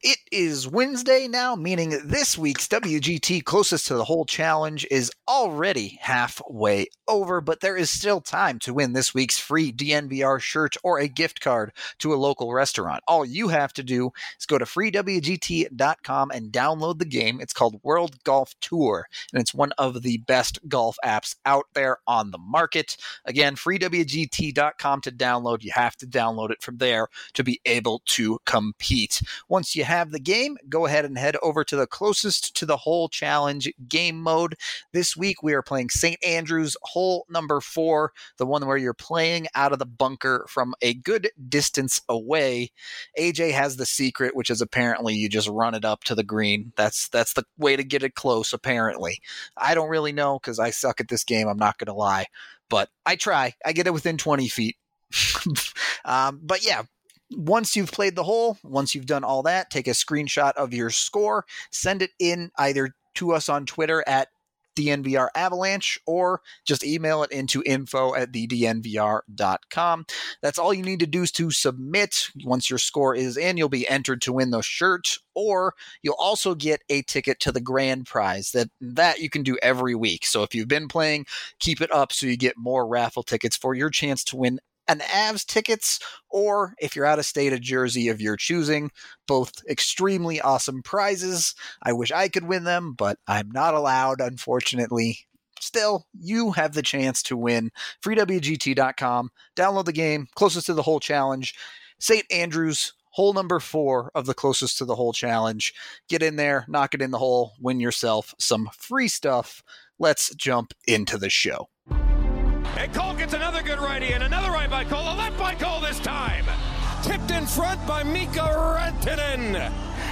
It is Wednesday now, meaning this week's WGT Closest to the Hole challenge is already halfway over, but there is still time to win this week's free DNVR shirt or a gift card to a local restaurant. All you have to do is go to freewgt.com and download the game. It's called World Golf Tour, and it's one of the best golf apps out there on the market. Again, freewgt.com to download. You have to download it from there to be able to compete. Once you have the game, go ahead and head over to the Closest to the Hole challenge game mode. This week we are playing St. Andrews hole number 4, the one where you're playing out of the bunker from a good distance away. AJ has the secret, which is apparently you just run it up to the green. That's the way to get it close, apparently. I don't really know because I suck at this game, I'm not going to lie. But I try. I get it within 20 feet. But yeah, once you've played the hole, once you've done all that, take a screenshot of your score, send it in either to us on Twitter at DNVR Avalanche or just email it into info@thednvr.com. That's all you need to do is to submit. Once your score is in, you'll be entered to win those shirts, or you'll also get a ticket to the grand prize. That you can do every week. So if you've been playing, keep it up so you get more raffle tickets for your chance to win an Avs tickets, or if you're out of state, a jersey of your choosing. Both extremely awesome prizes. I wish I could win them, but I'm not allowed, unfortunately. Still, you have the chance to win. freewgt.com. Download the game. Closest to the Hole challenge. St. Andrews, hole number 4 of the Closest to the Hole challenge. Get in there, knock it in the hole, win yourself some free stuff. Let's jump into the show. And Cole gets another good righty, and another right by Cole, a left by Cole this time. Tipped in front by Mika Rantanen.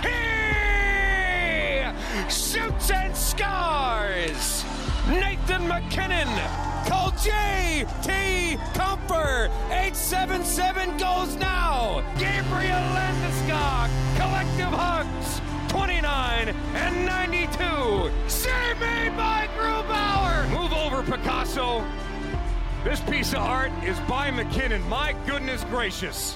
He shoots and scores. Nathan MacKinnon. Cole J.T. Comfer. 877 goes now. Gabriel Landeskog. Collective hugs. 29 and 92. Save made by Grubauer. Move over, Picasso. This piece of art is by McKinnon. My goodness gracious.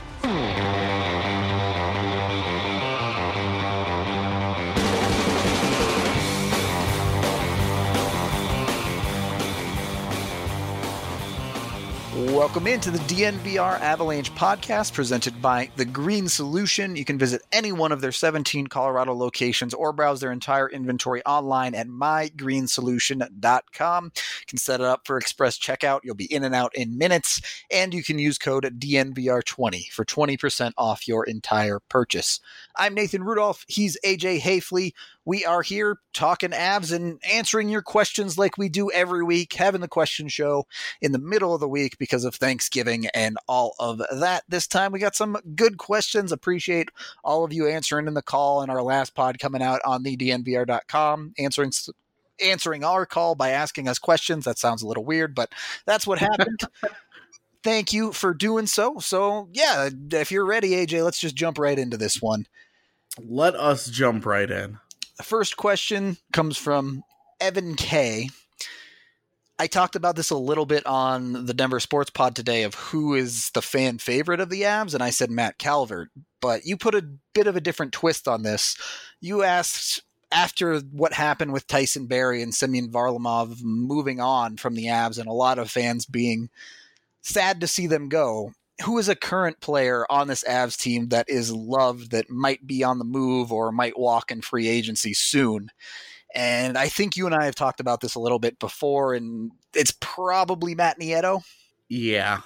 Welcome into the DNVR Avalanche podcast presented by The Green Solution. You can visit any one of their 17 Colorado locations or browse their entire inventory online at mygreensolution.com. You can set it up for express checkout. You'll be in and out in minutes, and you can use code DNVR20 for 20% off your entire purchase. I'm Nathan Rudolph. He's AJ Hayfley. We are here talking Avs and answering your questions like we do every week, having the question show in the middle of the week because of Thanksgiving and all of that. This time we got some good questions. Appreciate all of you answering in the call in our last pod coming out on thednvr.com, answering our call by asking us questions. That sounds a little weird, but that's what happened. Thank you for doing so. So yeah, if you're ready, AJ, let's just jump right into this one. Let us jump right in. The first question comes from Evan K. I talked about this a little bit on the Denver Sports Pod today of who is the fan favorite of the Avs, and I said Matt Calvert. But you put a bit of a different twist on this. You asked, after what happened with Tyson Barrie and Semyon Varlamov moving on from the Avs and a lot of fans being sad to see them go, who is a current player on this Avs team that is loved, that might be on the move or might walk in free agency soon? And I think you and I have talked about this a little bit before, and it's probably Matt Nieto. Yeah,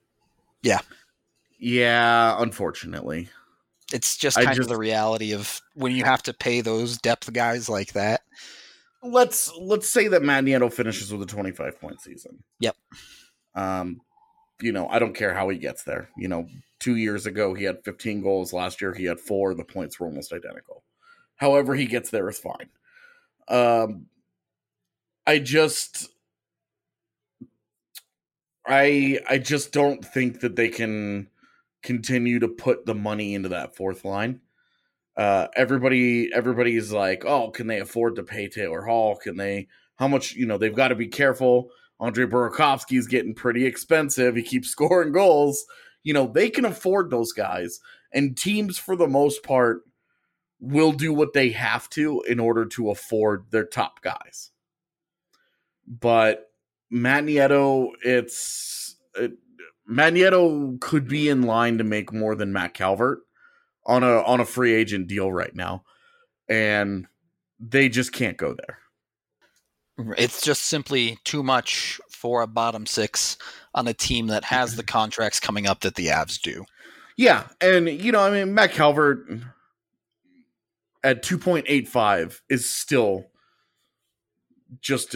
unfortunately. It's just kind of the reality of when you have to pay those depth guys like that. Let's say that Matt Nieto finishes with a 25-point season. Yep. I don't care how he gets there. 2 years ago, he had 15 goals. Last year, he had 4. The points were almost identical. However he gets there is fine. I just don't think that they can continue to put the money into that fourth line. Everybody's like, oh, can they afford to pay Taylor Hall? How much, they've got to be careful. Andre Burakovsky's getting pretty expensive. He keeps scoring goals. They can afford those guys. And teams, for the most part, will do what they have to in order to afford their top guys. But Matt Nieto, Matt Nieto could be in line to make more than Matt Calvert on a free agent deal right now, and they just can't go there. It's just simply too much for a bottom six on a team that has the contracts coming up that the Avs do. Yeah, and Matt Calvert at 2.85 is still just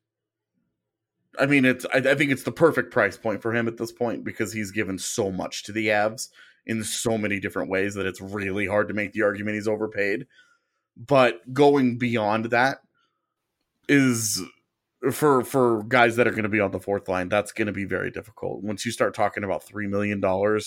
I think it's the perfect price point for him at this point, because he's given so much to the Avs in so many different ways that it's really hard to make the argument he's overpaid. But going beyond that is, for guys that are going to be on the fourth line, that's going to be very difficult. Once you start talking about $3 million,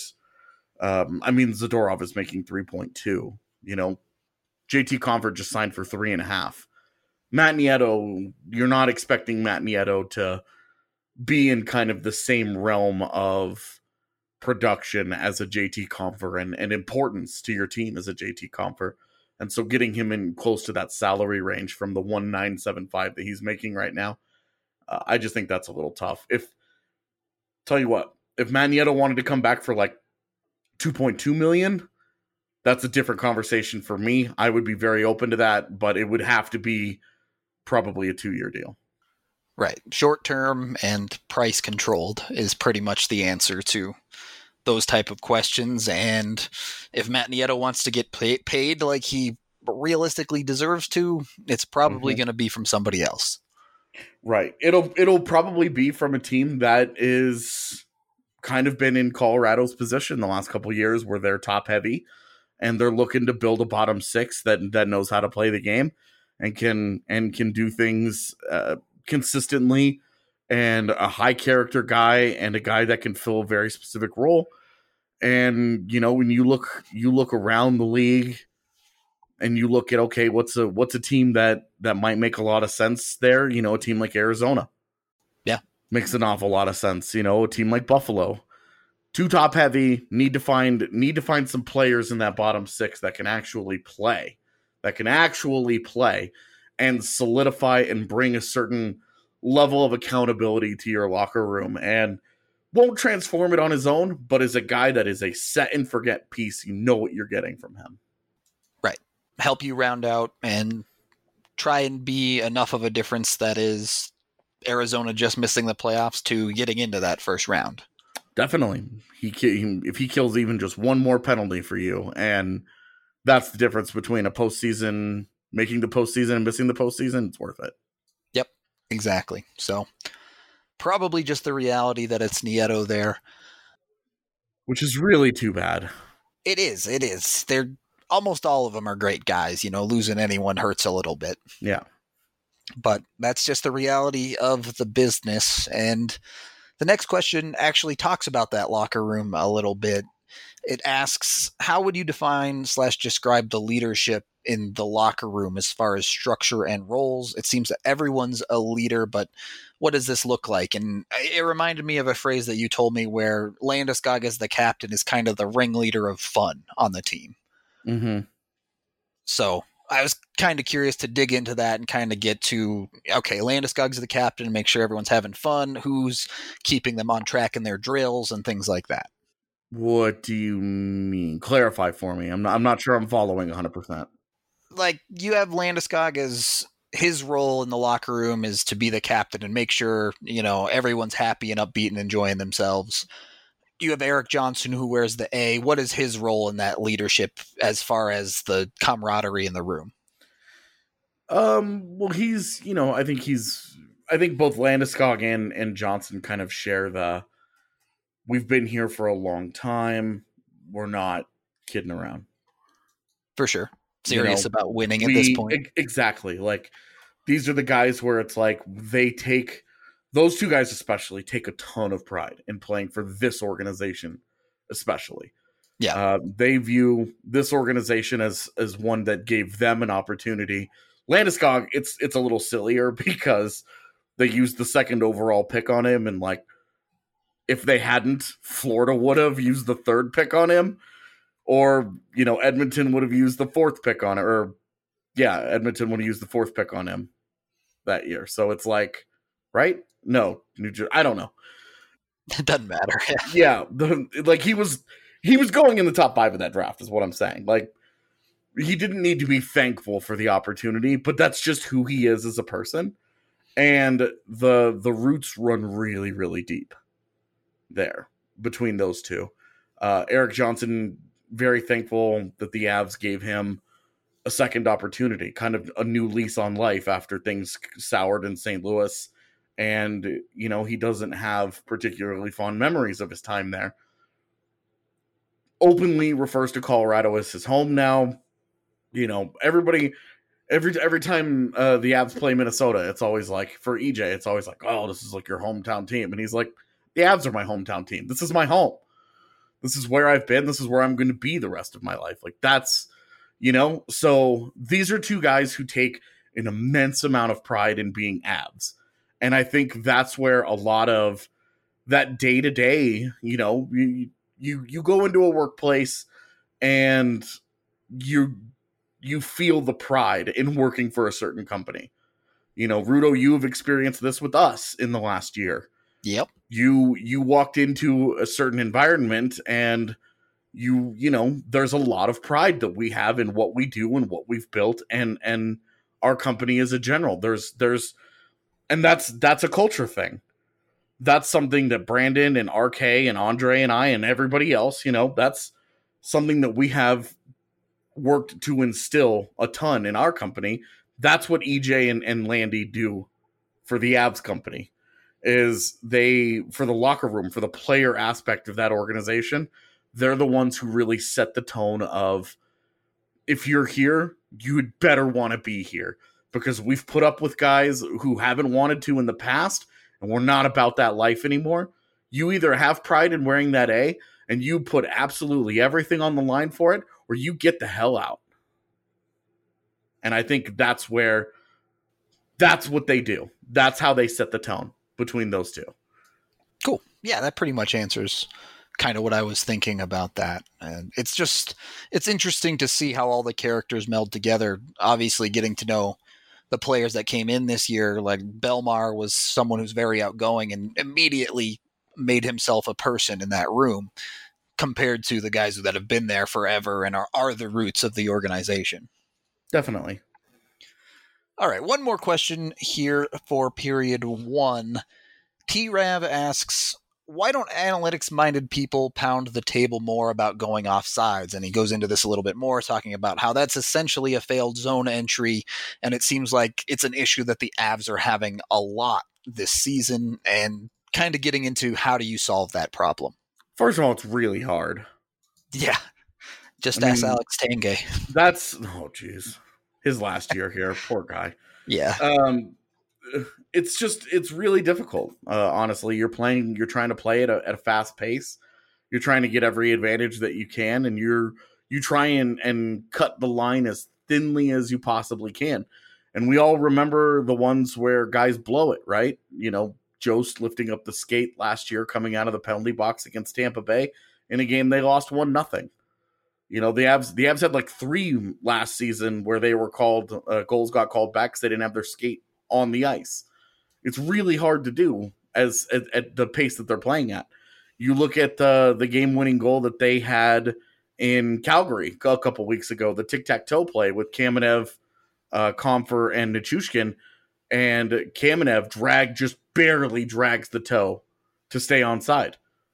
Zadorov is making 3.2. JT Compher just signed for 3.5. Matt Nieto, you're not expecting Matt Nieto to be in kind of the same realm of production as a JT Compher and importance to your team as a JT Compher. And so getting him in close to that salary range from the 1,975 that he's making right now, I just think that's a little tough. Tell you what, if Matt Nieto wanted to come back for like 2.2 million, that's a different conversation for me. I would be very open to that, but it would have to be probably a 2-year deal. Right. Short term and price controlled is pretty much the answer to those type of questions. And if Matt Nieto wants to get paid like he realistically deserves to, it's probably going to be from somebody else. Right. It'll probably be from a team that is kind of been in Colorado's position the last couple of years, where they're top heavy and they're looking to build a bottom six that knows how to play the game and can do things consistently, and a high character guy and a guy that can fill a very specific role. And when you look around the league and you look at, okay, what's a team that might make a lot of sense there? A team like Arizona, yeah, makes an awful lot of sense. A team like Buffalo, too top heavy, need to find some players in that bottom six that can actually play and solidify and bring a certain level of accountability to your locker room, and won't transform it on his own, but is a guy that is a set and forget piece. You know what you're getting from him. Right. Help you round out and try and be enough of a difference that is Arizona just missing the playoffs to getting into that first round. Definitely. If he kills even just one more penalty for you, and that's the difference between making the postseason and missing the postseason, it's worth it. Yep, exactly. So probably just the reality that it's Nieto there. Which is really too bad. It is. They're almost all of them are great guys. Losing anyone hurts a little bit. Yeah. But that's just the reality of the business. And the next question actually talks about that locker room a little bit. It asks, how would you define / describe the leadership in the locker room as far as structure and roles? It seems that everyone's a leader, but what does this look like? And it reminded me of a phrase that you told me where Landeskog as the captain is kind of the ringleader of fun on the team. Mm-hmm. So I was kind of curious to dig into that and kind of get to, okay, Landeskog's the captain, make sure everyone's having fun, who's keeping them on track in their drills and things like that. What do you mean? Clarify for me. I'm not sure I'm following 100%. Like, you have Landeskog as his role in the locker room is to be the captain and make sure, everyone's happy and upbeat and enjoying themselves. You have Erik Johnson, who wears the A. What is his role in that leadership as far as the camaraderie in the room? Well, he's, I think both Landeskog and Johnson kind of share we've been here for a long time. We're not kidding around. For sure. Serious about winning at this point. Exactly. Like, these are the guys where it's like those two guys especially take a ton of pride in playing for this organization, especially. Yeah. They view this organization as one that gave them an opportunity. Landeskog, it's a little sillier because they used the second overall pick on him, and like, if they hadn't, Florida would have used the third pick on him, Or, Edmonton would have used the 4th pick on it. Or, yeah, Edmonton would have used the 4th pick on him that year. So it's like, right? No, New Jersey. I don't know. It doesn't matter. Yeah, he was going in the top 5 of that draft, is what I'm saying. Like, he didn't need to be thankful for the opportunity, but that's just who he is as a person. And the roots run really, really deep there between those two. Erik Johnson, very thankful that the Avs gave him a second opportunity, kind of a new lease on life after things soured in St. Louis. And, he doesn't have particularly fond memories of his time there. Openly refers to Colorado as his home now. Everybody, every time the Avs play Minnesota, it's always like, for EJ, it's always like, oh, this is like your hometown team. And he's like, the Avs are my hometown team. This is my home. This is where I've been. This is where I'm going to be the rest of my life. Like, that's, so these are two guys who take an immense amount of pride in being Avs. And I think that's where a lot of that day-to-day, you go into a workplace and you feel the pride in working for a certain company. Rudo, you have experienced this with us in the last year. Yep. You walked into a certain environment and there's a lot of pride that we have in what we do and what we've built and our company as a general. And that's a culture thing. That's something that Brandon and RK and Andre and I and everybody else, that's something that we have worked to instill a ton in our company. That's what EJ and Landy do for the Avs company, is for the locker room, for the player aspect of that organization, they're the ones who really set the tone of, if you're here, you'd better want to be here. Because we've put up with guys who haven't wanted to in the past, and we're not about that life anymore. You either have pride in wearing that A, and you put absolutely everything on the line for it, or you get the hell out. And I think that's what they do. That's how they set the tone between those two. Cool. Yeah, that pretty much answers kind of what I was thinking about that. And it's interesting to see how all the characters meld together. Obviously, getting to know the players that came in this year, like Belmar was someone who's very outgoing and immediately made himself a person in that room compared to the guys that have been there forever and are the roots of the organization. Definitely. All right. One more question here for period 1. T-Rav asks, why don't analytics-minded people pound the table more about going off sides? And he goes into this a little bit more, talking about how that's essentially a failed zone entry, and it seems like it's an issue that the Avs are having a lot this season, and kind of getting into how do you solve that problem? First of all, it's really hard. Yeah. Just ask Alex Tanguay. Geez. His last year here, poor guy. Yeah. It's really difficult. Honestly, you're trying to play at a fast pace. You're trying to get every advantage that you can, and you try and cut the line as thinly as you possibly can. And we all remember the ones where guys blow it, right? Jost lifting up the skate last year, coming out of the penalty box against Tampa Bay in a game they lost 1-0. The Avs had like 3 last season where they were called, goals got called back because they didn't have their skate on the ice. It's really hard to do at the pace that they're playing at. You look at the game-winning goal that they had in Calgary a couple weeks ago, the tic-tac-toe play with Kamenev, Compher, and Nichushkin, and Kamenev just barely drags the toe to stay onside.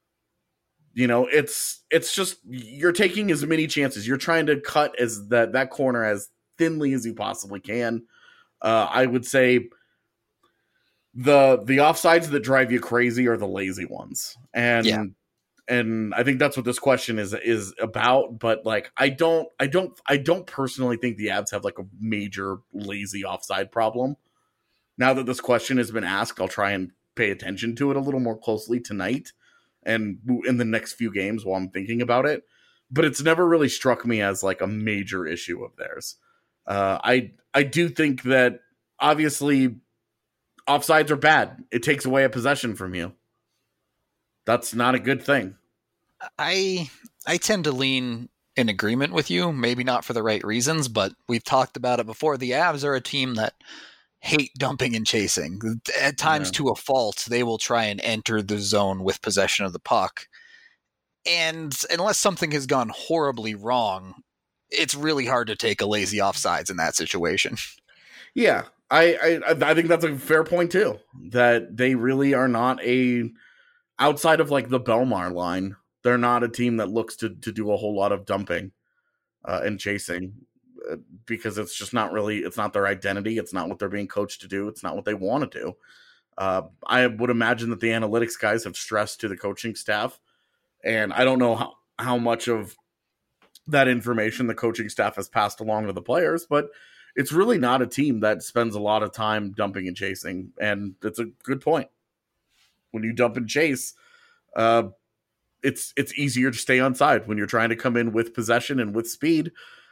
It's just, you're taking as many chances. You're trying to cut as that corner as thinly as you possibly can. I would say the offsides that drive you crazy are the lazy ones. And I think that's what this question is about. But like, I don't personally think the Avs have like a major lazy offside problem. Now that this question has been asked, I'll try and pay attention to it a little more closely tonight and in the next few games while I'm thinking about it. But it's never really struck me as like a major issue of theirs. I do think that obviously offsides are bad. It takes away a possession from you. That's not a good thing. I tend to lean in agreement with you, maybe not for the right reasons, but we've talked about it before. The Avs are a team that hate dumping and chasing. At times to a fault, they will try and enter the zone with possession of the puck. And unless something has gone horribly wrong, it's really hard to take a lazy offsides in that situation. Yeah, I think that's a fair point too. That they really are not outside of like the Belmar line, they're not a team that looks to do a whole lot of dumping and chasing because it's just not really, it's not their identity. It's not what they're being coached to do. It's not what they want to do. I would imagine that the analytics guys have stressed to the coaching staff, and I don't know how much of that information the coaching staff has passed along to the players, but it's really not a team that spends a lot of time dumping and chasing. And it's a good point. When you dump and chase, it's easier to stay on side. When you're trying to come in with possession and with speed,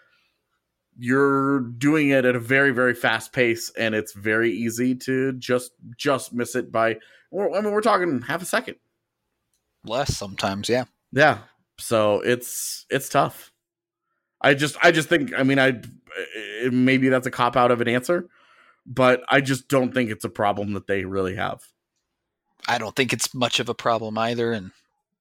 you're doing it at a very, very fast pace, and it's very easy to just miss it by, we're talking half a second. Less sometimes, yeah. Yeah. So it's tough. I just think, maybe that's a cop out of an answer, but I just don't think it's a problem that they really have. I don't think it's much of a problem either. And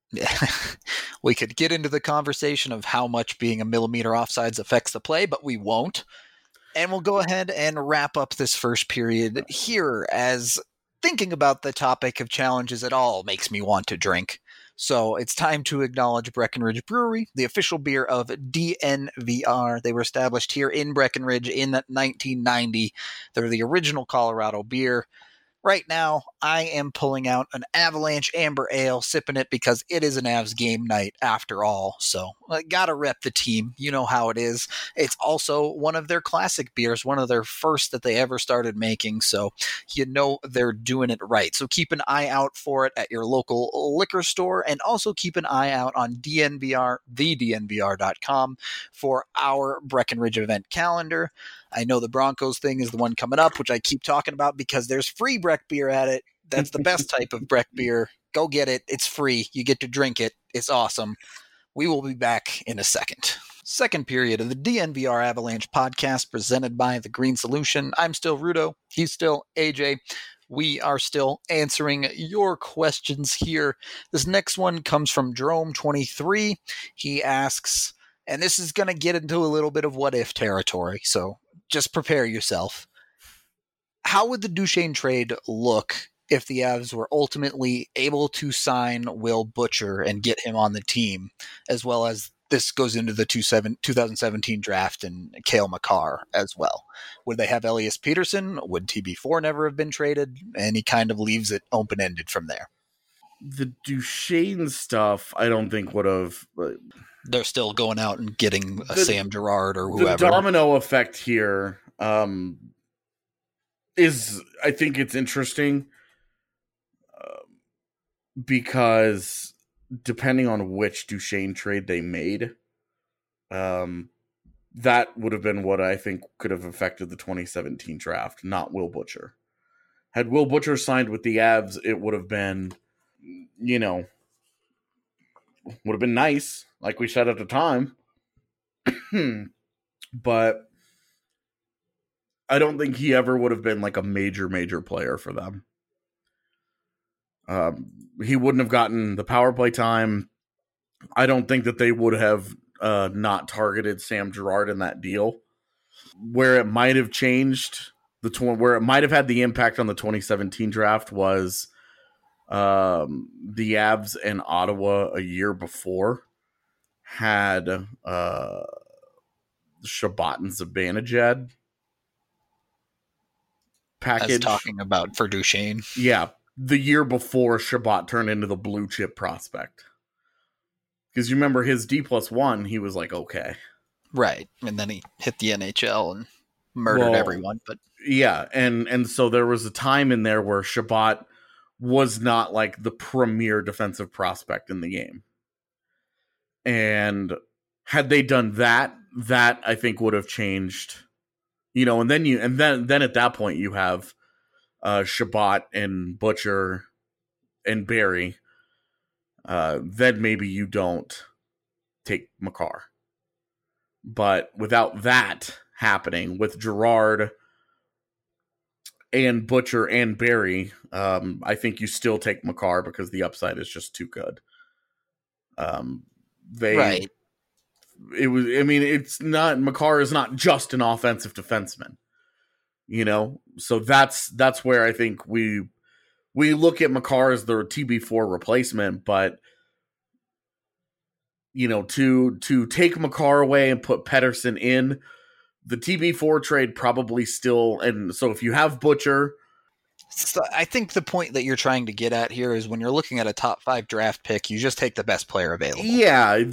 we could get into the conversation of how much being a millimeter offsides affects the play, but we won't. And we'll go ahead and wrap up this first period here, as thinking about the topic of challenges at all makes me want to drink. So it's time to acknowledge Breckenridge Brewery, the official beer of DNVR. They were established here in Breckenridge in 1990. They're the original Colorado beer. Right now, I am pulling out an Avalanche Amber Ale, sipping it because it is an Avs game night after all. So, gotta rep the team. You know how it is. It's also one of their classic beers, one of their first that they ever started making. So, you know they're doing it right. So, keep an eye out for it at your local liquor store, and also keep an eye out on DNVR, thednvr.com for our Breckenridge event calendar. I know the Broncos thing is the one coming up, which I keep talking about because there's free Breck beer at it. That's the best type of Breck beer. Go get it. It's free. You get to drink it. It's awesome. We will be back in a second. Second period of the DNVR Avalanche podcast presented by The Green Solution. I'm still Rudo. He's still AJ. We are still answering your questions here. This next one comes from Jerome23. He asks, and this is going to get into a little bit of what if territory, so just prepare yourself. How would the Duchesne trade look if the Avs were ultimately able to sign Will Butcher and get him on the team, as well as this goes into the 2017 draft and Cale Makar as well? Would they have Elias Peterson? Would TB4 never have been traded? And he kind of leaves it open-ended from there. The Duchesne stuff, I don't think would have... They're still going out and getting Sam Girard or whoever. The domino effect here is, I think it's interesting because depending on which Duchesne trade they made, that would have been what I think could have affected the 2017 draft, not Will Butcher. Had Will Butcher signed with the Avs, it would have been, would have been nice, like we said at the time. But I don't think he ever would have been like a major player for them. He wouldn't have gotten the power play time. I don't think that they would have not targeted Sam Girard in that deal. Where it might have changed, where it might have had the impact on the 2017 draft was the Avs and Ottawa a year before had Shabbat and Zibanejad package. As talking about for Duchesne. Yeah, the year before Shabbat turned into the blue chip prospect. Because you remember his D+1, he was like, okay. Right, and then he hit the NHL and murdered everyone. But yeah, and so there was a time in there where Shabbat was not like the premier defensive prospect in the game. And had they done that I think would have changed, and then at that point you have Shabbat and Butcher and Barry. Then maybe you don't take Makar. But without that happening, with Girard and Butcher and Barry, I think you still take Makar because the upside is just too good. Right. It's not, Makar is not just an offensive defenseman, so that's where I think we look at Makar as the TB4 replacement, but to take Makar away and put Pettersson in, the TB4 trade probably still, and so if you have Butcher. So I think the point that you're trying to get at here is when you're looking at a top 5 draft pick, you just take the best player available. Yeah,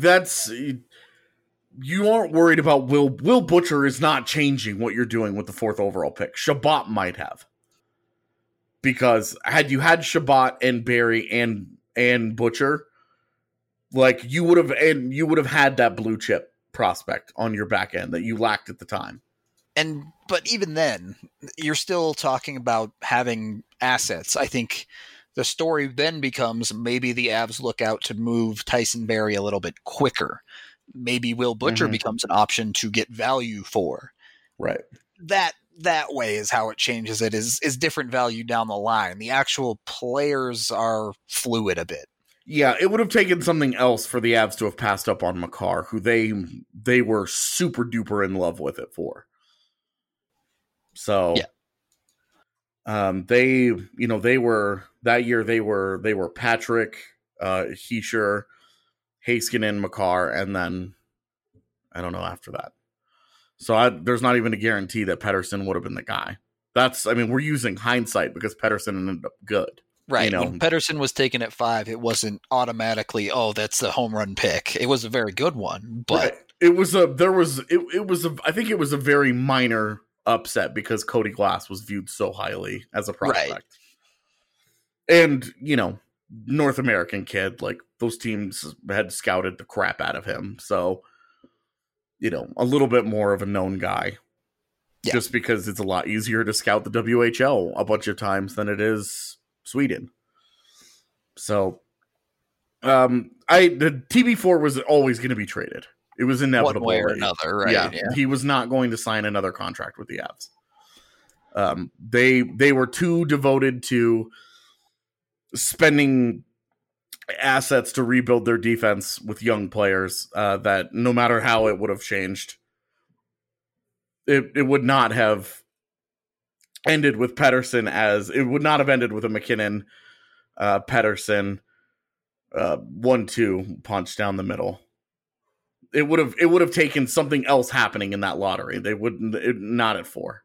you aren't worried about Will Butcher is not changing what you're doing with the 4th overall pick. Shabbat might have. Because had you had Shabbat and Barry and Butcher, like you would have had that blue chip prospect on your back end that you lacked at the time. But even then, you're still talking about having assets. I think the story then becomes maybe the Avs look out to move Tyson Barrie a little bit quicker. Maybe Will Butcher becomes an option to get value for. Right. That way is how it changes it, is different value down the line. The actual players are fluid a bit. Yeah, it would have taken something else for the Avs to have passed up on Makar, who they were super duper in love with it for. So, they were that year. They were Patrick, Hischier, Heiskanen, Makar, and then I don't know after that. So there's not even a guarantee that Pettersson would have been the guy. We're using hindsight because Pettersson ended up good. Right. When Pettersson was taken at 5, it wasn't automatically, that's the home run pick. It was a very good one, but right. I think it was a very minor upset because Cody Glass was viewed so highly as a prospect. Right. And, North American kid, like those teams had scouted the crap out of him. So, a little bit more of a known guy. Yeah. Just because it's a lot easier to scout the WHL a bunch of times than it is Sweden. So, the TB4 was always going to be traded. It was inevitable. One way or another, right? Yeah, he was not going to sign another contract with the Avs. They were too devoted to spending assets to rebuild their defense with young players that no matter how it would have changed, it would not have ended with Pettersson it would not have ended with a McKinnon, Pettersson, 1-2 punch down the middle. It would have taken something else happening in that lottery. They wouldn't, not at 4.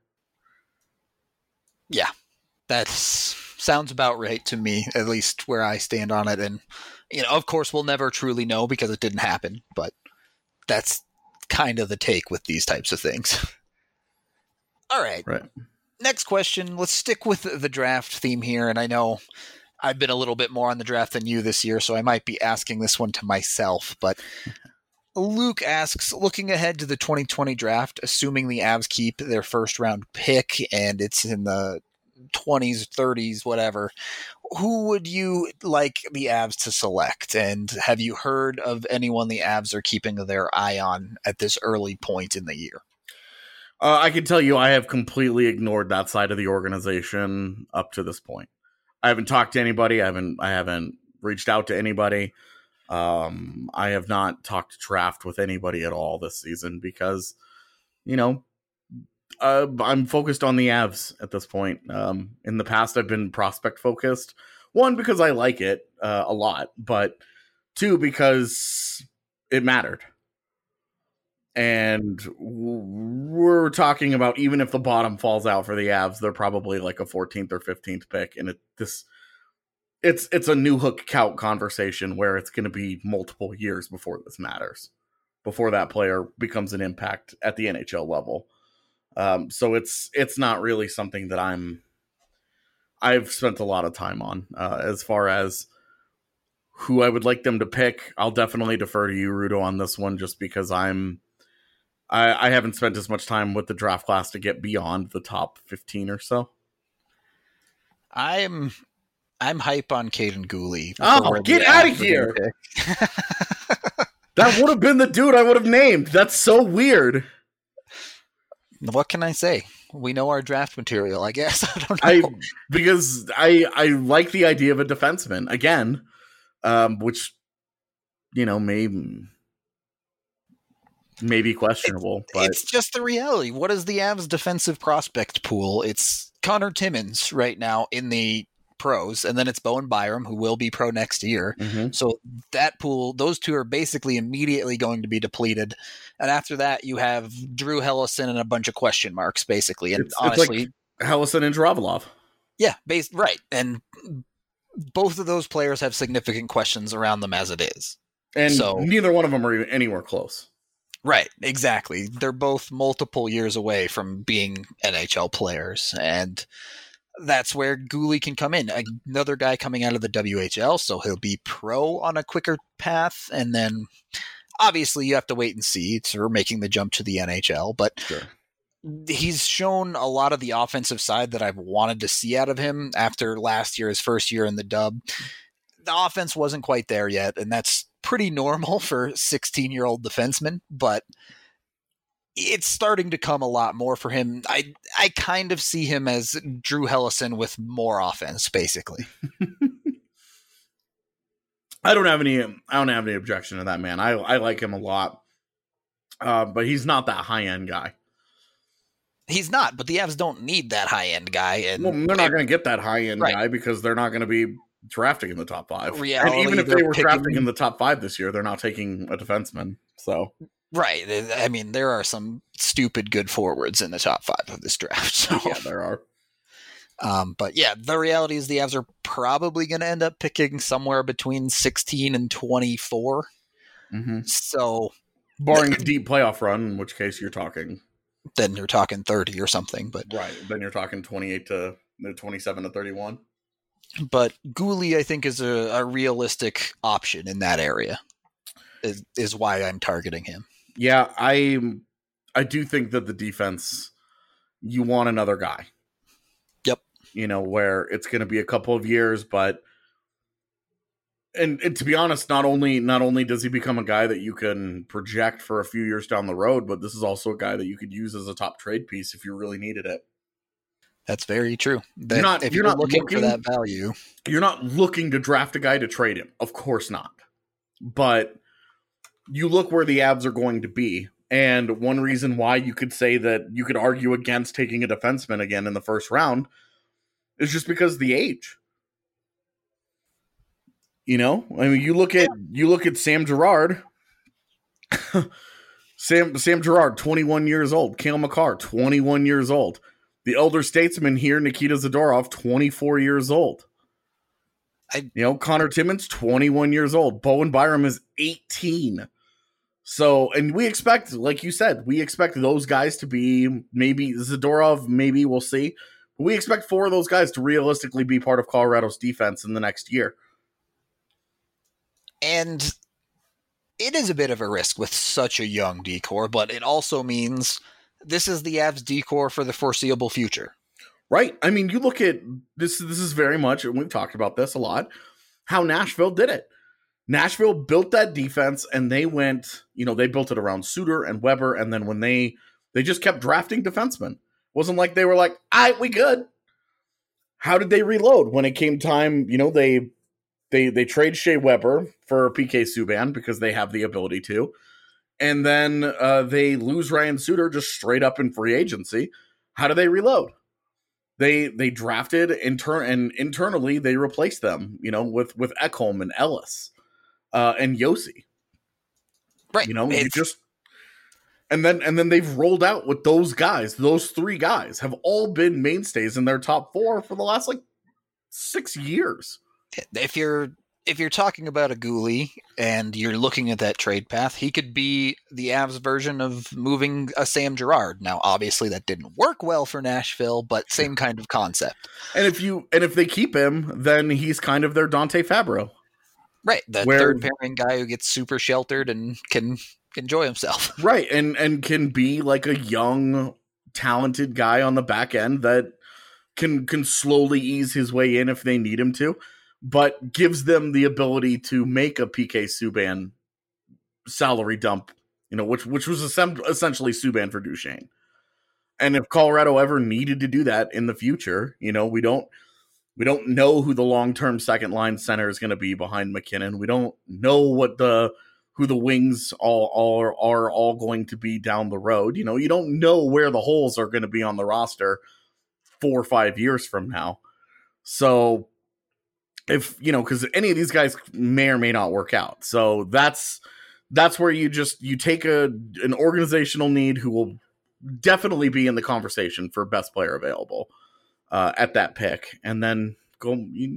Yeah, that sounds about right to me, at least where I stand on it. And, of course we'll never truly know because it didn't happen, but that's kind of the take with these types of things. All right. Right. Next question. Let's stick with the draft theme here. And I know I've been a little bit more on the draft than you this year, so I might be asking this one to myself, but Luke asks, looking ahead to the 2020 draft, assuming the Avs keep their first round pick and it's in the 20s, 30s, whatever, who would you like the Avs to select? And have you heard of anyone the Avs are keeping their eye on at this early point in the year? I can tell you I have completely ignored that side of the organization up to this point. I haven't talked to anybody. I haven't reached out to anybody. I have not talked draft with anybody at all this season because, I'm focused on the Avs at this point. In the past, I've been prospect focused. 1, because I like it a lot, but 2, because it mattered. And we're talking about even if the bottom falls out for the Avs, they're probably like a 14th or 15th pick. And it's a new hook count conversation where it's going to be multiple years before this matters, before that player becomes an impact at the NHL level. So it's not really something that I've spent a lot of time on. As far as who I would like them to pick, I'll definitely defer to you, Rudo, on this one, just because I haven't spent as much time with the draft class to get beyond the top 15 or so. I'm hype on Caden Gooley. Oh, get out of here! That would have been the dude I would have named. That's so weird. What can I say? We know our draft material, I guess. I don't know. Because I like the idea of a defenseman again, which may be questionable. But it's just the reality. What is the Avs defensive prospect pool? It's Connor Timmins right now in the pros, and then it's Bowen Byram, who will be pro next year. Mm-hmm. So that pool, those two are basically immediately going to be depleted. And after that, you have Drew Hellison and a bunch of question marks, basically. And honestly, it's like Hellison and Zdravilov. Yeah, right. And both of those players have significant questions around them as it is. And so, neither one of them are anywhere close. Right, exactly. They're both multiple years away from being NHL players, and that's where Guhle can come in. Another guy coming out of the WHL, so he'll be pro on a quicker path, and then obviously you have to wait and see for making the jump to the NHL, but sure. He's shown a lot of the offensive side that I've wanted to see out of him after last year, his first year in the dub. The offense wasn't quite there yet, and that's pretty normal for 16-year-old defensemen, but it's starting to come a lot more for him. I kind of see him as Drew Hellison with more offense, basically. I don't have any objection to that, man. I like him a lot, but he's not that high end guy. He's not, but the Avs don't need that high end guy, and they're not going to get that high end guy because they're not going to be drafting in the top 5. Reality, and even if they were drafting in the top 5 this year, they're not taking a defenseman. So. Right. I mean, there are some stupid good forwards in the top 5 of this draft. So. Yeah, there are. But yeah, the reality is the Avs are probably going to end up picking somewhere between 16 and 24. Mm-hmm. So, barring a deep playoff run, in which case you're talking. Then you're talking 30 or something. But right. Then you're talking 27 to 31. But Guhle, I think, is a realistic option in that area. Is why I'm targeting him. Yeah, I do think that the defense, you want another guy. Yep. Where it's going to be a couple of years, but and to be honest, not only does he become a guy that you can project for a few years down the road, but this is also a guy that you could use as a top trade piece if you really needed it. That's very true. If you're not looking for that value, you're not looking to draft a guy to trade him. Of course not. But you look where the Avs are going to be. And one reason why you could say that you could argue against taking a defenseman again in the first round is just because of the age. I mean, you look at Sam Girard. Sam Girard, 21 years old. Cale Makar, 21 years old. The elder statesman here, Nikita Zadorov, 24 years old. Connor Timmins, 21 years old. Bowen Byram is 18. So, and we expect, like you said, those guys to be maybe Zadorov, maybe we'll see. But we expect 4 of those guys to realistically be part of Colorado's defense in the next year. And it is a bit of a risk with such a young decor, but it also means this is the Avs decor for the foreseeable future. Right. I mean, you look at this is very much, and we've talked about this a lot, how Nashville did it. Nashville built that defense, and they went, they built it around Suter and Weber, and then when they just kept drafting defensemen. It wasn't like they were like, all right, we good. How did they reload? When it came time, they trade Shea Weber for PK Subban because they have the ability to. And then they lose Ryan Suter just straight up in free agency. How do they reload? They drafted and internally they replaced them, with Ekholm and Ellis and Yossi. Right. And then they've rolled out with those guys. Those 3 guys have all been mainstays in their top 4 for the last 6 years. If you're talking about a Guhle and you're looking at that trade path, he could be the Avs version of moving a Sam Girard. Now, obviously, that didn't work well for Nashville, but same kind of concept. And if they keep him, then he's kind of their Dante Fabro, right? The third pairing guy who gets super sheltered and can enjoy himself, right? And can be like a young, talented guy on the back end that can slowly ease his way in if they need him to. But gives them the ability to make a PK Subban salary dump, which was essentially Subban for Duchesne. And if Colorado ever needed to do that in the future, we don't know who the long-term second line center is going to be behind McKinnon. We don't know who the wings are all going to be down the road. You don't know where the holes are going to be on the roster 4 or 5 years from now. So if, because any of these guys may or may not work out. So that's where you take an organizational need who will definitely be in the conversation for best player available at that pick, and then go,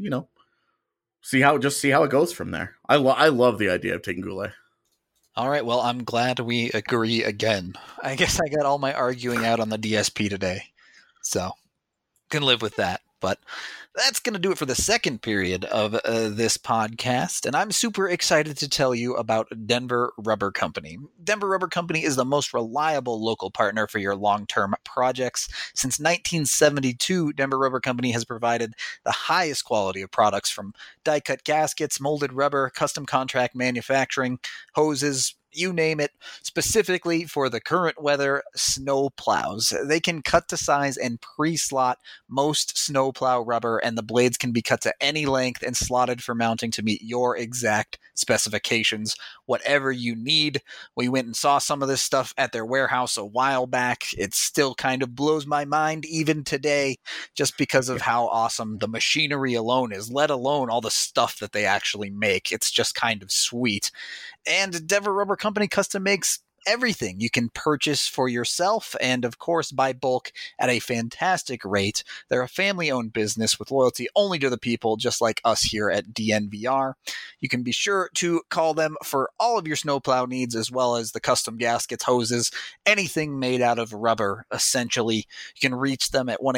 see how it goes from there. I love the idea of taking Goulet. All right, well, I'm glad we agree again. I guess I got all my arguing out on the DSP today, so can live with that. But that's going to do it for the second period of this podcast, and I'm super excited to tell you about Denver Rubber Company. Denver Rubber Company is the most reliable local partner for your long-term projects. Since 1972, Denver Rubber Company has provided the highest quality of products, from die-cut gaskets, molded rubber, custom contract manufacturing, hoses, you name it, specifically for the current weather snow plows. They can cut to size and pre-slot most snow plow rubber, and the blades can be cut to any length and slotted for mounting to meet your exact specifications, whatever you need. We went and saw some of this stuff at their warehouse a while back. It still kind of blows my mind even today, just because of how awesome the machinery alone is, let alone all the stuff that they actually make. It's just kind of sweet. And Denver Rubber Company custom makes everything you can purchase for yourself and, of course, buy bulk at a fantastic rate. They're a family-owned business with loyalty only to the people, just like us here at DNVR. You can be sure to call them for all of your snowplow needs, as well as the custom gaskets, hoses, anything made out of rubber, essentially. You can reach them at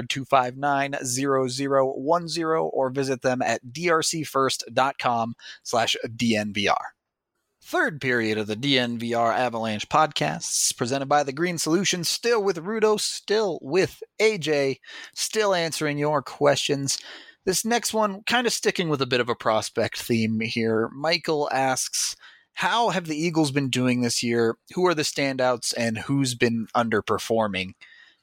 1-800-259-0010 or visit them at drcfirst.com/DNVR. Third period of the DNVR Avalanche podcasts, presented by The Green Solution, still with Rudo, still with AJ, still answering your questions. This next one, kind of sticking with a bit of a prospect theme here. Michael asks, how have the Eagles been doing this year? Who are the standouts and who's been underperforming?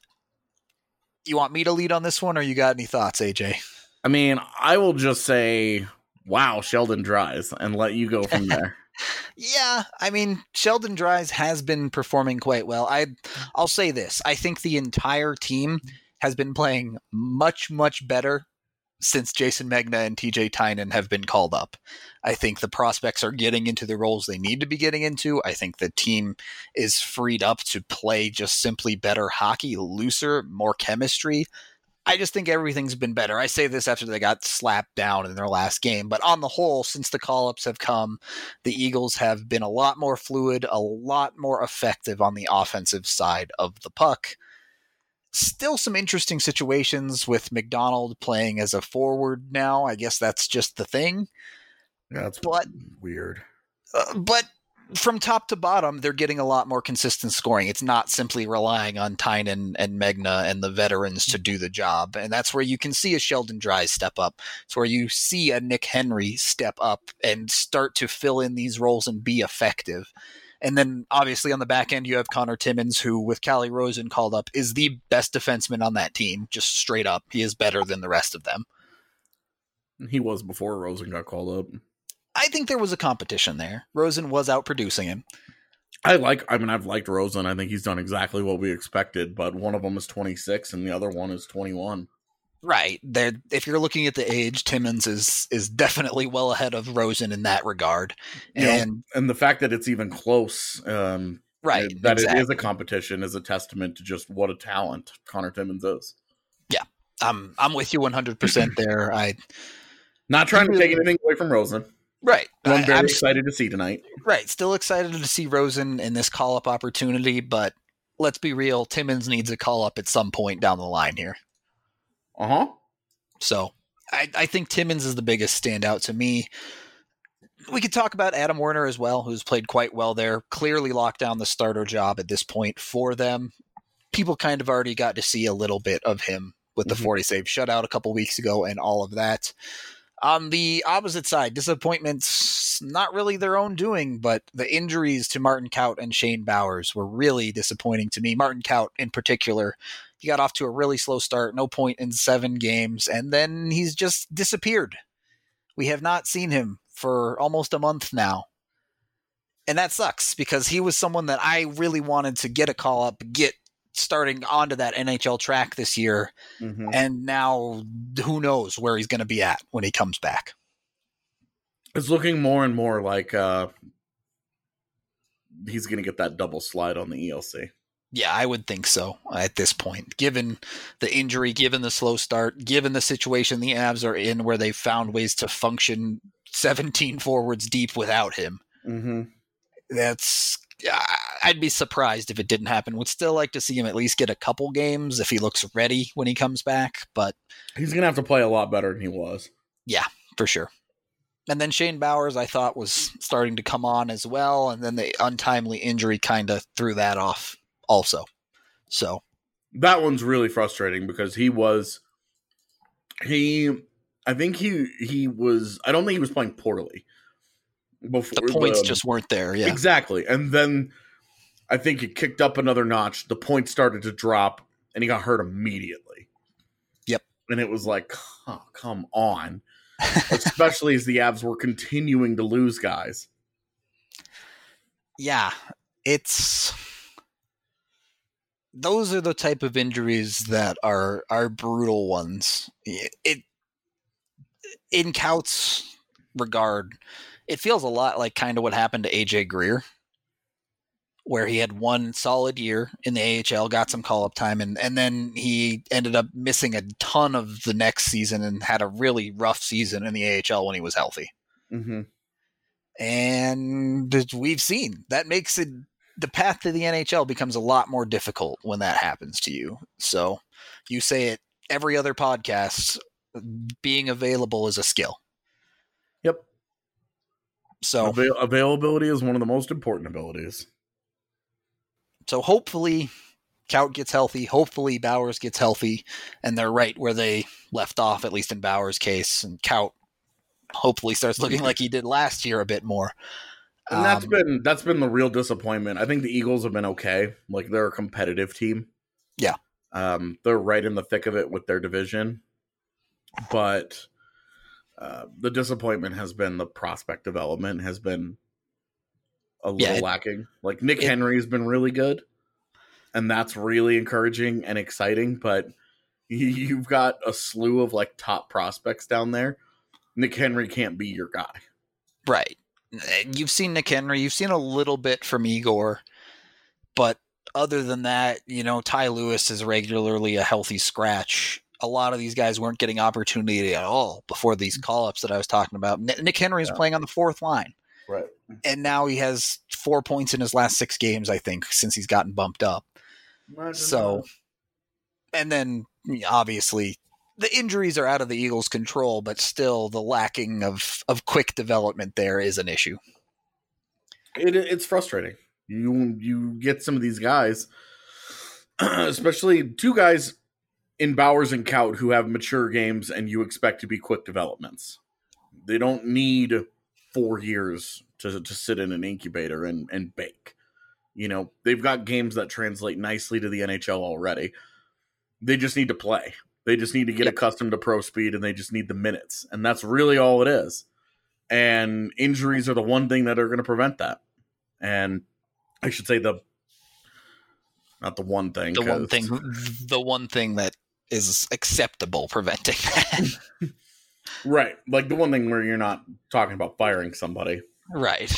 You want me to lead on this one, or you got any thoughts, AJ? I mean, I will just say, wow, Sheldon Dries, and let you go from there. Yeah, I mean, Sheldon Dries has been performing quite well. I'll say this. I think the entire team has been playing much, much better since Jason Megna and TJ Tynan have been called up. I think the prospects are getting into the roles they need to be getting into. I think the team is freed up to play just simply better hockey, looser, more chemistry. I just think everything's been better. I say this after they got slapped down in their last game, but on the whole, since the call-ups have come, the Eagles have been a lot more fluid, a lot more effective on the offensive side of the puck. Still some interesting situations with McDonald playing as a forward now. I guess that's just the thing. Yeah, that's weird. But from top to bottom, they're getting a lot more consistent scoring. It's not simply relying on Tynan and Megna and the veterans to do the job. And that's where you can see a Sheldon Dries step up. It's where you see a Nick Henry step up and start to fill in these roles and be effective. And then obviously on the back end, you have Connor Timmins, who with Calle Rosen called up is the best defenseman on that team. Just straight up. He is better than the rest of them. He was before Rosen got called up. I think there was a competition there. Rosen was out producing him. I've liked Rosen. I think he's done exactly what we expected, but one of them is 26 and the other one is 21. Right. If you're looking at the age, Timmins is definitely well ahead of Rosen in that regard. And the fact that it's even close, right, that exactly. It is a competition is a testament to just what a talent Connor Timmins is. Yeah. I'm with you 100% there. Not trying to take anything away from Rosen. Right. I'm very excited to see tonight. Right. Still excited to see Rosen in this call-up opportunity, but let's be real, Timmins needs a call-up at some point down the line here. Uh-huh. So I think Timmins is the biggest standout to me. We could talk about Adam Werner as well, who's played quite well there. Clearly locked down the starter job at this point for them. People kind of already got to see a little bit of him with the 40-save shutout a couple weeks ago and all of that. On the opposite side, disappointments, not really their own doing, but the injuries to Martin Kaut and Shane Bowers were really disappointing to me. Martin Kaut in particular, he got off to a really slow start, no point in 7 games, and then he's just disappeared. We have not seen him for almost a month now. And that sucks because he was someone that I really wanted to get a call up, get starting onto that NHL track this year. Mm-hmm. And now who knows where he's going to be at when he comes back. It's looking more and more like he's going to get that double slide on the ELC. Yeah, I would think so at this point, given the injury, given the slow start, given the situation the Avs are in where they've found ways to function 17 forwards deep without him. Mm-hmm. I'd be surprised if it didn't happen. Would still like to see him at least get a couple games if he looks ready when he comes back, but he's going to have to play a lot better than he was. Yeah, for sure. And then Shane Bowers, I thought, was starting to come on as well, and then the untimely injury kind of threw that off also. So that one's really frustrating because I don't think he was playing poorly. Before the points just weren't there, yeah. Exactly. And then I think it kicked up another notch. The points started to drop, and he got hurt immediately. Yep. And it was like, oh, come on. Especially as the Avs were continuing to lose guys. Yeah. Those are the type of injuries that are brutal ones. In Kaut's regard, it feels a lot like kind of what happened to AJ Greer, where he had one solid year in the AHL, got some call-up time, and then he ended up missing a ton of the next season and had a really rough season in the AHL when he was healthy. Mm-hmm. And we've seen that makes it the path to the NHL becomes a lot more difficult when that happens to you. So you say it every other podcast, being available is a skill. Yep. So availability is one of the most important abilities. So hopefully Kaut gets healthy. Hopefully Bowers gets healthy, and they're right where they left off, at least in Bowers' case. And Kaut hopefully starts looking like he did last year a bit more. And that's been the real disappointment. I think the Eagles have been okay. Like, they're a competitive team. Yeah. They're right in the thick of it with their division. But the disappointment has been the prospect development has been a little lacking. Like, Nick Henry has been really good, and that's really encouraging and exciting, but you've got a slew of, like, top prospects down there. Nick Henry can't be your guy. Right. You've seen Nick Henry. You've seen a little bit from Igor, but other than that, Ty Lewis is regularly a healthy scratch. A lot of these guys weren't getting opportunity at all before these call-ups that I was talking about. Nick Henry is playing on the fourth line. Right. And now he has 4 points in his last 6 games, I think, since he's gotten bumped up. And then obviously the injuries are out of the Eagles' control, but still the lacking of quick development there is an issue. It's frustrating. You get some of these guys, especially 2 guys in Bowers and Kaut who have mature games and you expect to be quick developments. They don't need 4 years to sit in an incubator and bake. They've got games that translate nicely to the NHL already. They just need to play. They just need to get accustomed to pro speed, and they just need the minutes. And that's really all it is. And injuries are the one thing that are going to prevent that. And I should say the one thing that is acceptable preventing that. Right. Like the one thing where you're not talking about firing somebody. Right.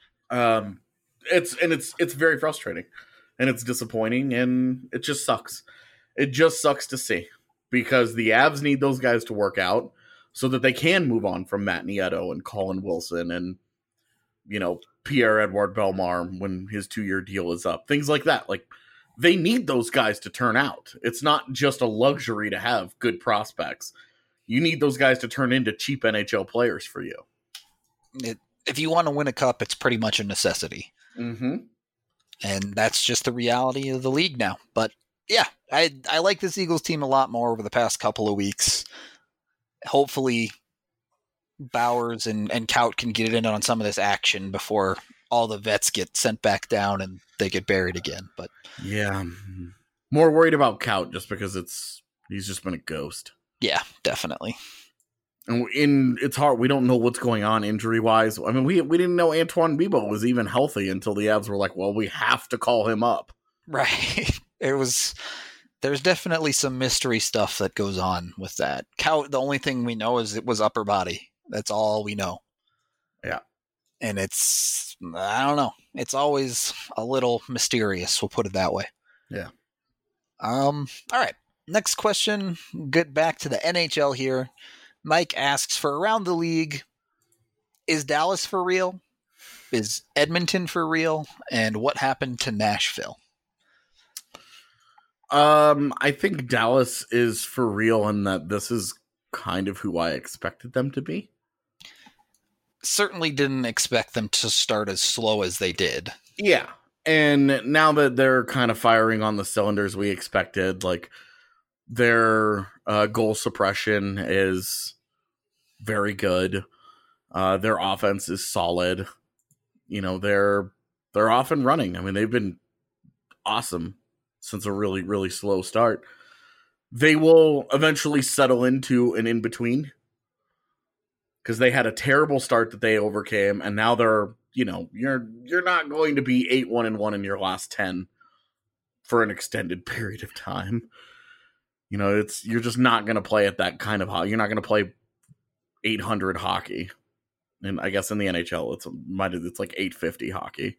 It's very frustrating, and it's disappointing, and it just sucks. It just sucks to see, because the Avs need those guys to work out so that they can move on from Matt Nieto and Colin Wilson and, Pierre-Edouard Bellemare when his 2-year deal is up. Things like that. Like, they need those guys to turn out. It's not just a luxury to have good prospects. You need those guys to turn into cheap NHL players for you. If you want to win a cup, it's pretty much a necessity. Mm-hmm. And that's just the reality of the league now. But yeah, I like this Eagles team a lot more over the past couple of weeks. Hopefully Bowers and Kaut can get in on some of this action before all the vets get sent back down and they get buried again. But yeah, more worried about Kaut just because he's just been a ghost. Yeah, definitely. And it's hard. We don't know what's going on injury wise. I mean, we didn't know Antoine Bibeau was even healthy until the Avs were like, well, we have to call him up. Right. There's definitely some mystery stuff that goes on with that. Kaut, the only thing we know is it was upper body. That's all we know. Yeah. And I don't know. It's always a little mysterious. We'll put it that way. Yeah. All right. Next question. Get back to the NHL here. Mike asks, for around the league, is Dallas for real? Is Edmonton for real? And what happened to Nashville? I think Dallas is for real in that this is kind of who I expected them to be. Certainly didn't expect them to start as slow as they did. Yeah. And now that they're kind of firing on the cylinders we expected, like their goal suppression is very good. Their offense is solid. You know, they're off and running. I mean, they've been awesome since a really, really slow start. They will eventually settle into an in-between because they had a terrible start that they overcame, and now they're, you know, you're not going to be 8-1-1 in your last 10 for an extended period of time. You know, you're just not going to play at that kind of hockey. You're not going to play 800 hockey. And I guess in the NHL, it's like 850 hockey.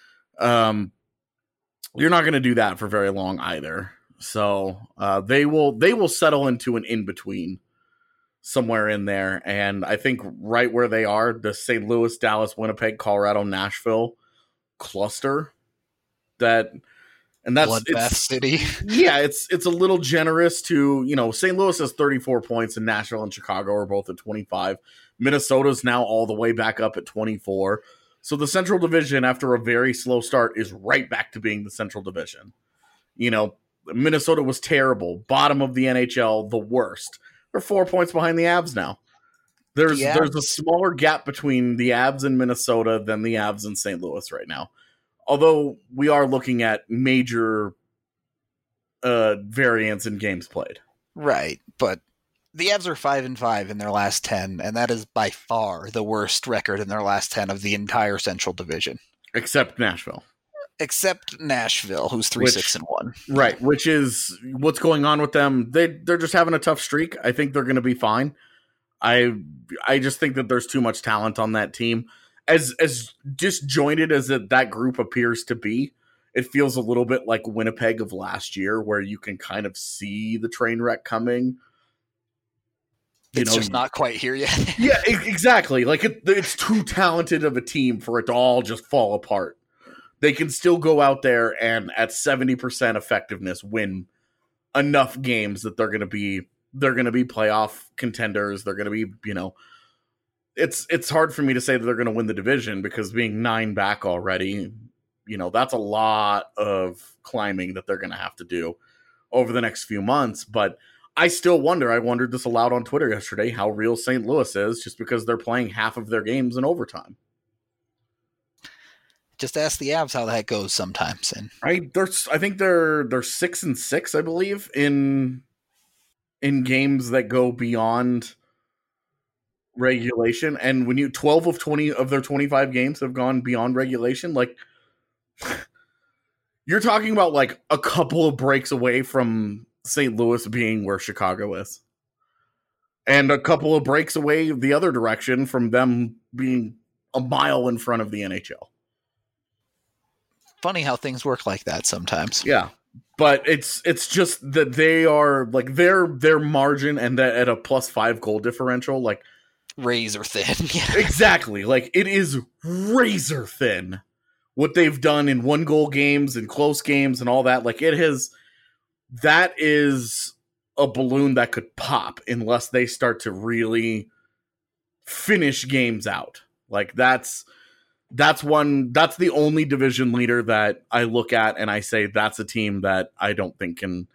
You're not going to do that for very long either. So they will settle into an in-between somewhere in there. And I think right where they are, the St. Louis, Dallas, Winnipeg, Colorado, Nashville cluster, that's Bloodbath City. Yeah, it's a little generous to, you know, St. Louis has 34 points and Nashville and Chicago are both at 25. Minnesota's now all the way back up at 24. So the Central Division, after a very slow start, is right back to being the Central Division. You know, Minnesota was terrible. Bottom of the NHL, the worst. They're 4 points behind the Avs now. There's a smaller gap between the Avs and Minnesota than the Avs and St. Louis right now. Although we are looking at major variance in games played. Right, but the Avs are 5-5 in their last 10, and that is by far the worst record in their last 10 of the entire Central Division. Except Nashville, who's 3-6-1. Right, which is what's going on with them. They're just having a tough streak. I think they're going to be fine. I just think that there's too much talent on that team. As disjointed as that group appears to be, it feels a little bit like Winnipeg of last year, where you can kind of see the train wreck coming. It's just not quite here yet. Yeah, exactly. Like it's too talented of a team for it to all just fall apart. They can still go out there and at 70% effectiveness win enough games that they're going to be playoff contenders. They're going to be, you know, it's hard for me to say that they're going to win the division because being 9 back already, you know, that's a lot of climbing that they're going to have to do over the next few months. But I still wonder, I wondered this aloud on Twitter yesterday, how real St. Louis is just because they're playing half of their games in overtime. Just ask the Avs how that goes sometimes. And I think they're 6-6, I believe, in games that go beyond regulation. And when 12 of 20 of their 25 games have gone beyond regulation, like you're talking about like a couple of breaks away from St. Louis being where Chicago is. And a couple of breaks away the other direction from them being a mile in front of the NHL. Funny how things work like that sometimes. Yeah. But it's just that they are like their margin and that at a +5 goal differential, like razor thin. Exactly. Like it is razor thin what they've done in 1-goal games and close games and all that. Like that is a balloon that could pop unless they start to really finish games out. Like that's the only division leader that I look at and I say that's a team that I don't think can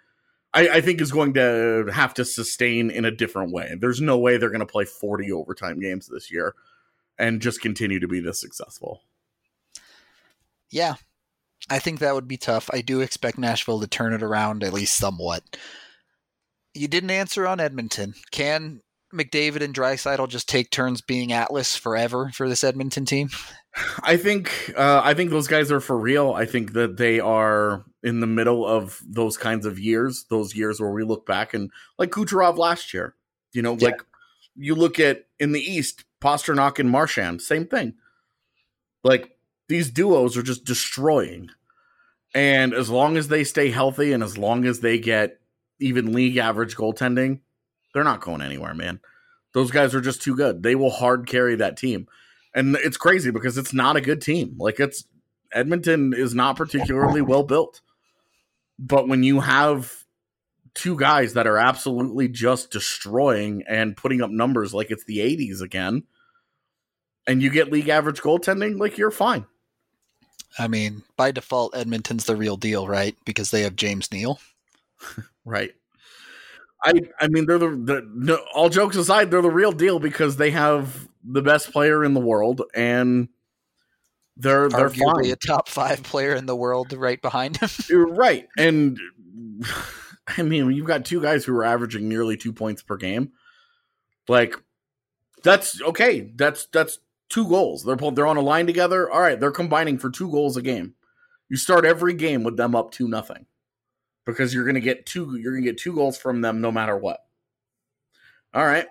I think is going to have to sustain in a different way. There's no way they're going to play 40 overtime games this year and just continue to be this successful. Yeah, I think that would be tough. I do expect Nashville to turn it around at least somewhat. You didn't answer on Edmonton. Can McDavid and Draisaitl just take turns being Atlas forever for this Edmonton team? I think those guys are for real. I think that they are in the middle of those kinds of years, those years where we look back and like Kucherov last year, like you look at in the East, Pasternak and Marchand, same thing. Like these duos are just destroying. And as long as they stay healthy and as long as they get even league average goaltending, they're not going anywhere, man. Those guys are just too good. They will hard carry that team. And it's crazy because it's not a good team. Like Edmonton is not particularly well built. But when you have two guys that are absolutely just destroying and putting up numbers like it's the 80s again, and you get league average goaltending, like you're fine. I mean, by default, Edmonton's the real deal, right? Because they have James Neal. Right. I mean, they're all jokes aside, they're the real deal because they have the best player in the world, and they're arguably fine. A top 5 player in the world right behind him. You're right, and I mean, you've got two guys who are averaging nearly 2 points per game. Like, that's okay. That's 2 goals. They're on a line together. All right, they're combining for 2 goals a game. You start every game with them up 2-0. Because you're gonna get 2 goals from them no matter what. All right.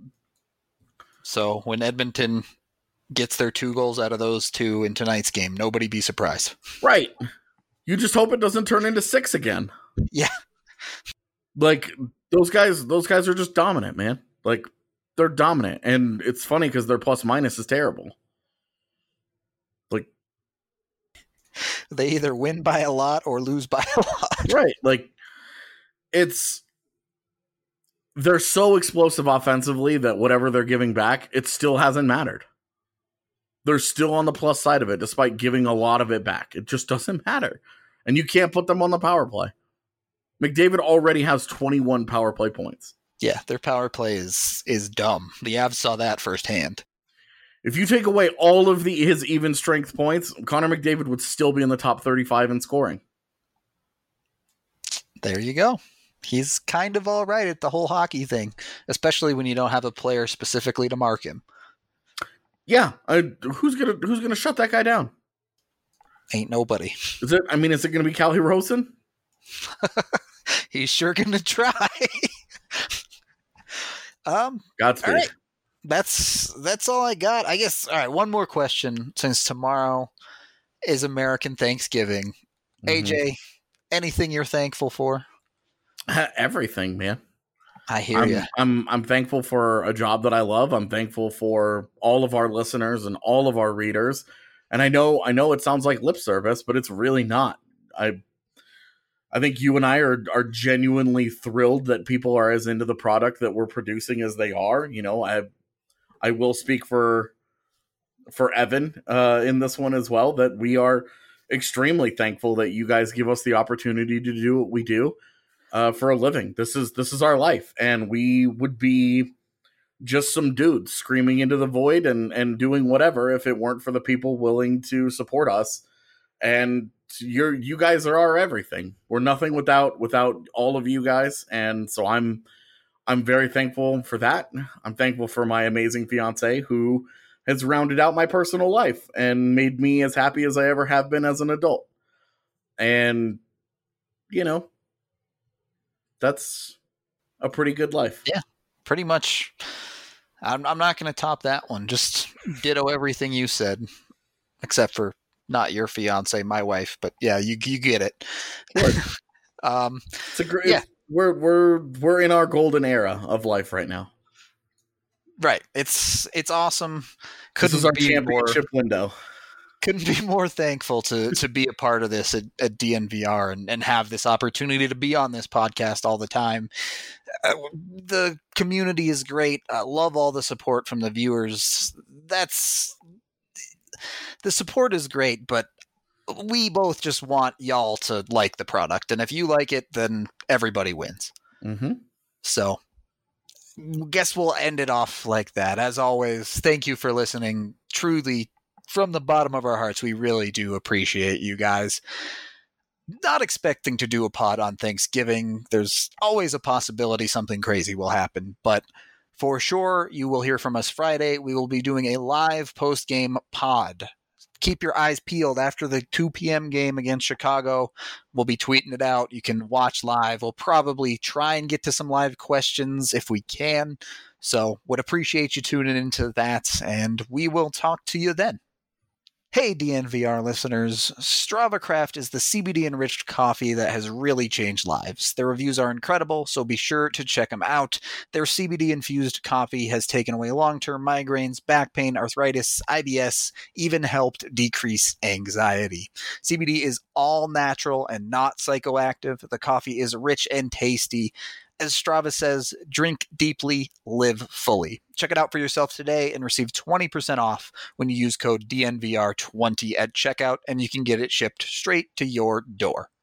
So when Edmonton gets their 2 goals out of those 2 in tonight's game, nobody be surprised. Right. You just hope it doesn't turn into 6 again. Yeah. Like those guys are just dominant, man. Like they're dominant, and it's funny because their plus minus is terrible. Like they either win by a lot or lose by a lot. Right. Like they're so explosive offensively that whatever they're giving back, it still hasn't mattered. They're still on the plus side of it, despite giving a lot of it back. It just doesn't matter. And you can't put them on the power play. McDavid already has 21 power play points. Yeah, their power play is dumb. The Avs saw that firsthand. If you take away all of his even strength points, Connor McDavid would still be in the top 35 in scoring. There you go. He's kind of all right at the whole hockey thing, especially when you don't have a player specifically to mark him. Yeah, who's gonna shut that guy down? Ain't nobody. Is it gonna be Calle Rosen? He's sure gonna try. Godspeed. All right. That's all I got. I guess. All right. One more question. Since tomorrow is American Thanksgiving, AJ, anything you're thankful for? Everything, man. I hear you. I'm thankful for a job that I love. I'm thankful for all of our listeners and all of our readers. And I know it sounds like lip service, but it's really not. I think you and I are genuinely thrilled that people are as into the product that we're producing as they are. I will speak for Evan in this one as well, that we are extremely thankful that you guys give us the opportunity to do what we do for a living. This is our life, and we would be just some dudes screaming into the void and doing whatever if it weren't for the people willing to support us. And you guys are our everything. We're nothing without all of you guys, and so I'm very thankful for that. I'm thankful for my amazing fiance who has rounded out my personal life and made me as happy as I ever have been as an adult. And that's a pretty good life. Yeah, pretty much. I'm not going to top that one. Just ditto everything you said, except for not your fiance, my wife. But yeah, you get it. It's a great. Yeah. We're in our golden era of life right now. Right. It's awesome. This is our championship window. Couldn't be more thankful to be a part of this at DNVR and have this opportunity to be on this podcast all the time. The community is great. I love all the support from the viewers. The support is great, but we both just want y'all to like the product. And if you like it, then everybody wins. Mm-hmm. So guess we'll end it off like that. As always, thank you for listening. Truly, from the bottom of our hearts, we really do appreciate you guys. Not expecting to do a pod on Thanksgiving. There's always a possibility something crazy will happen, but for sure, you will hear from us Friday. We will be doing a live post-game pod. Keep your eyes peeled after the 2 p.m. game against Chicago. We'll be tweeting it out. You can watch live. We'll probably try and get to some live questions if we can. So would appreciate you tuning into that, and we will talk to you then. Hey, DNVR listeners, Strava Craft is the CBD-enriched coffee that has really changed lives. Their reviews are incredible, so be sure to check them out. Their CBD-infused coffee has taken away long-term migraines, back pain, arthritis, IBS, even helped decrease anxiety. CBD is all natural and not psychoactive. The coffee is rich and tasty. As Strava says, drink deeply, live fully. Check it out for yourself today and receive 20% off when you use code DNVR20 at checkout, and you can get it shipped straight to your door.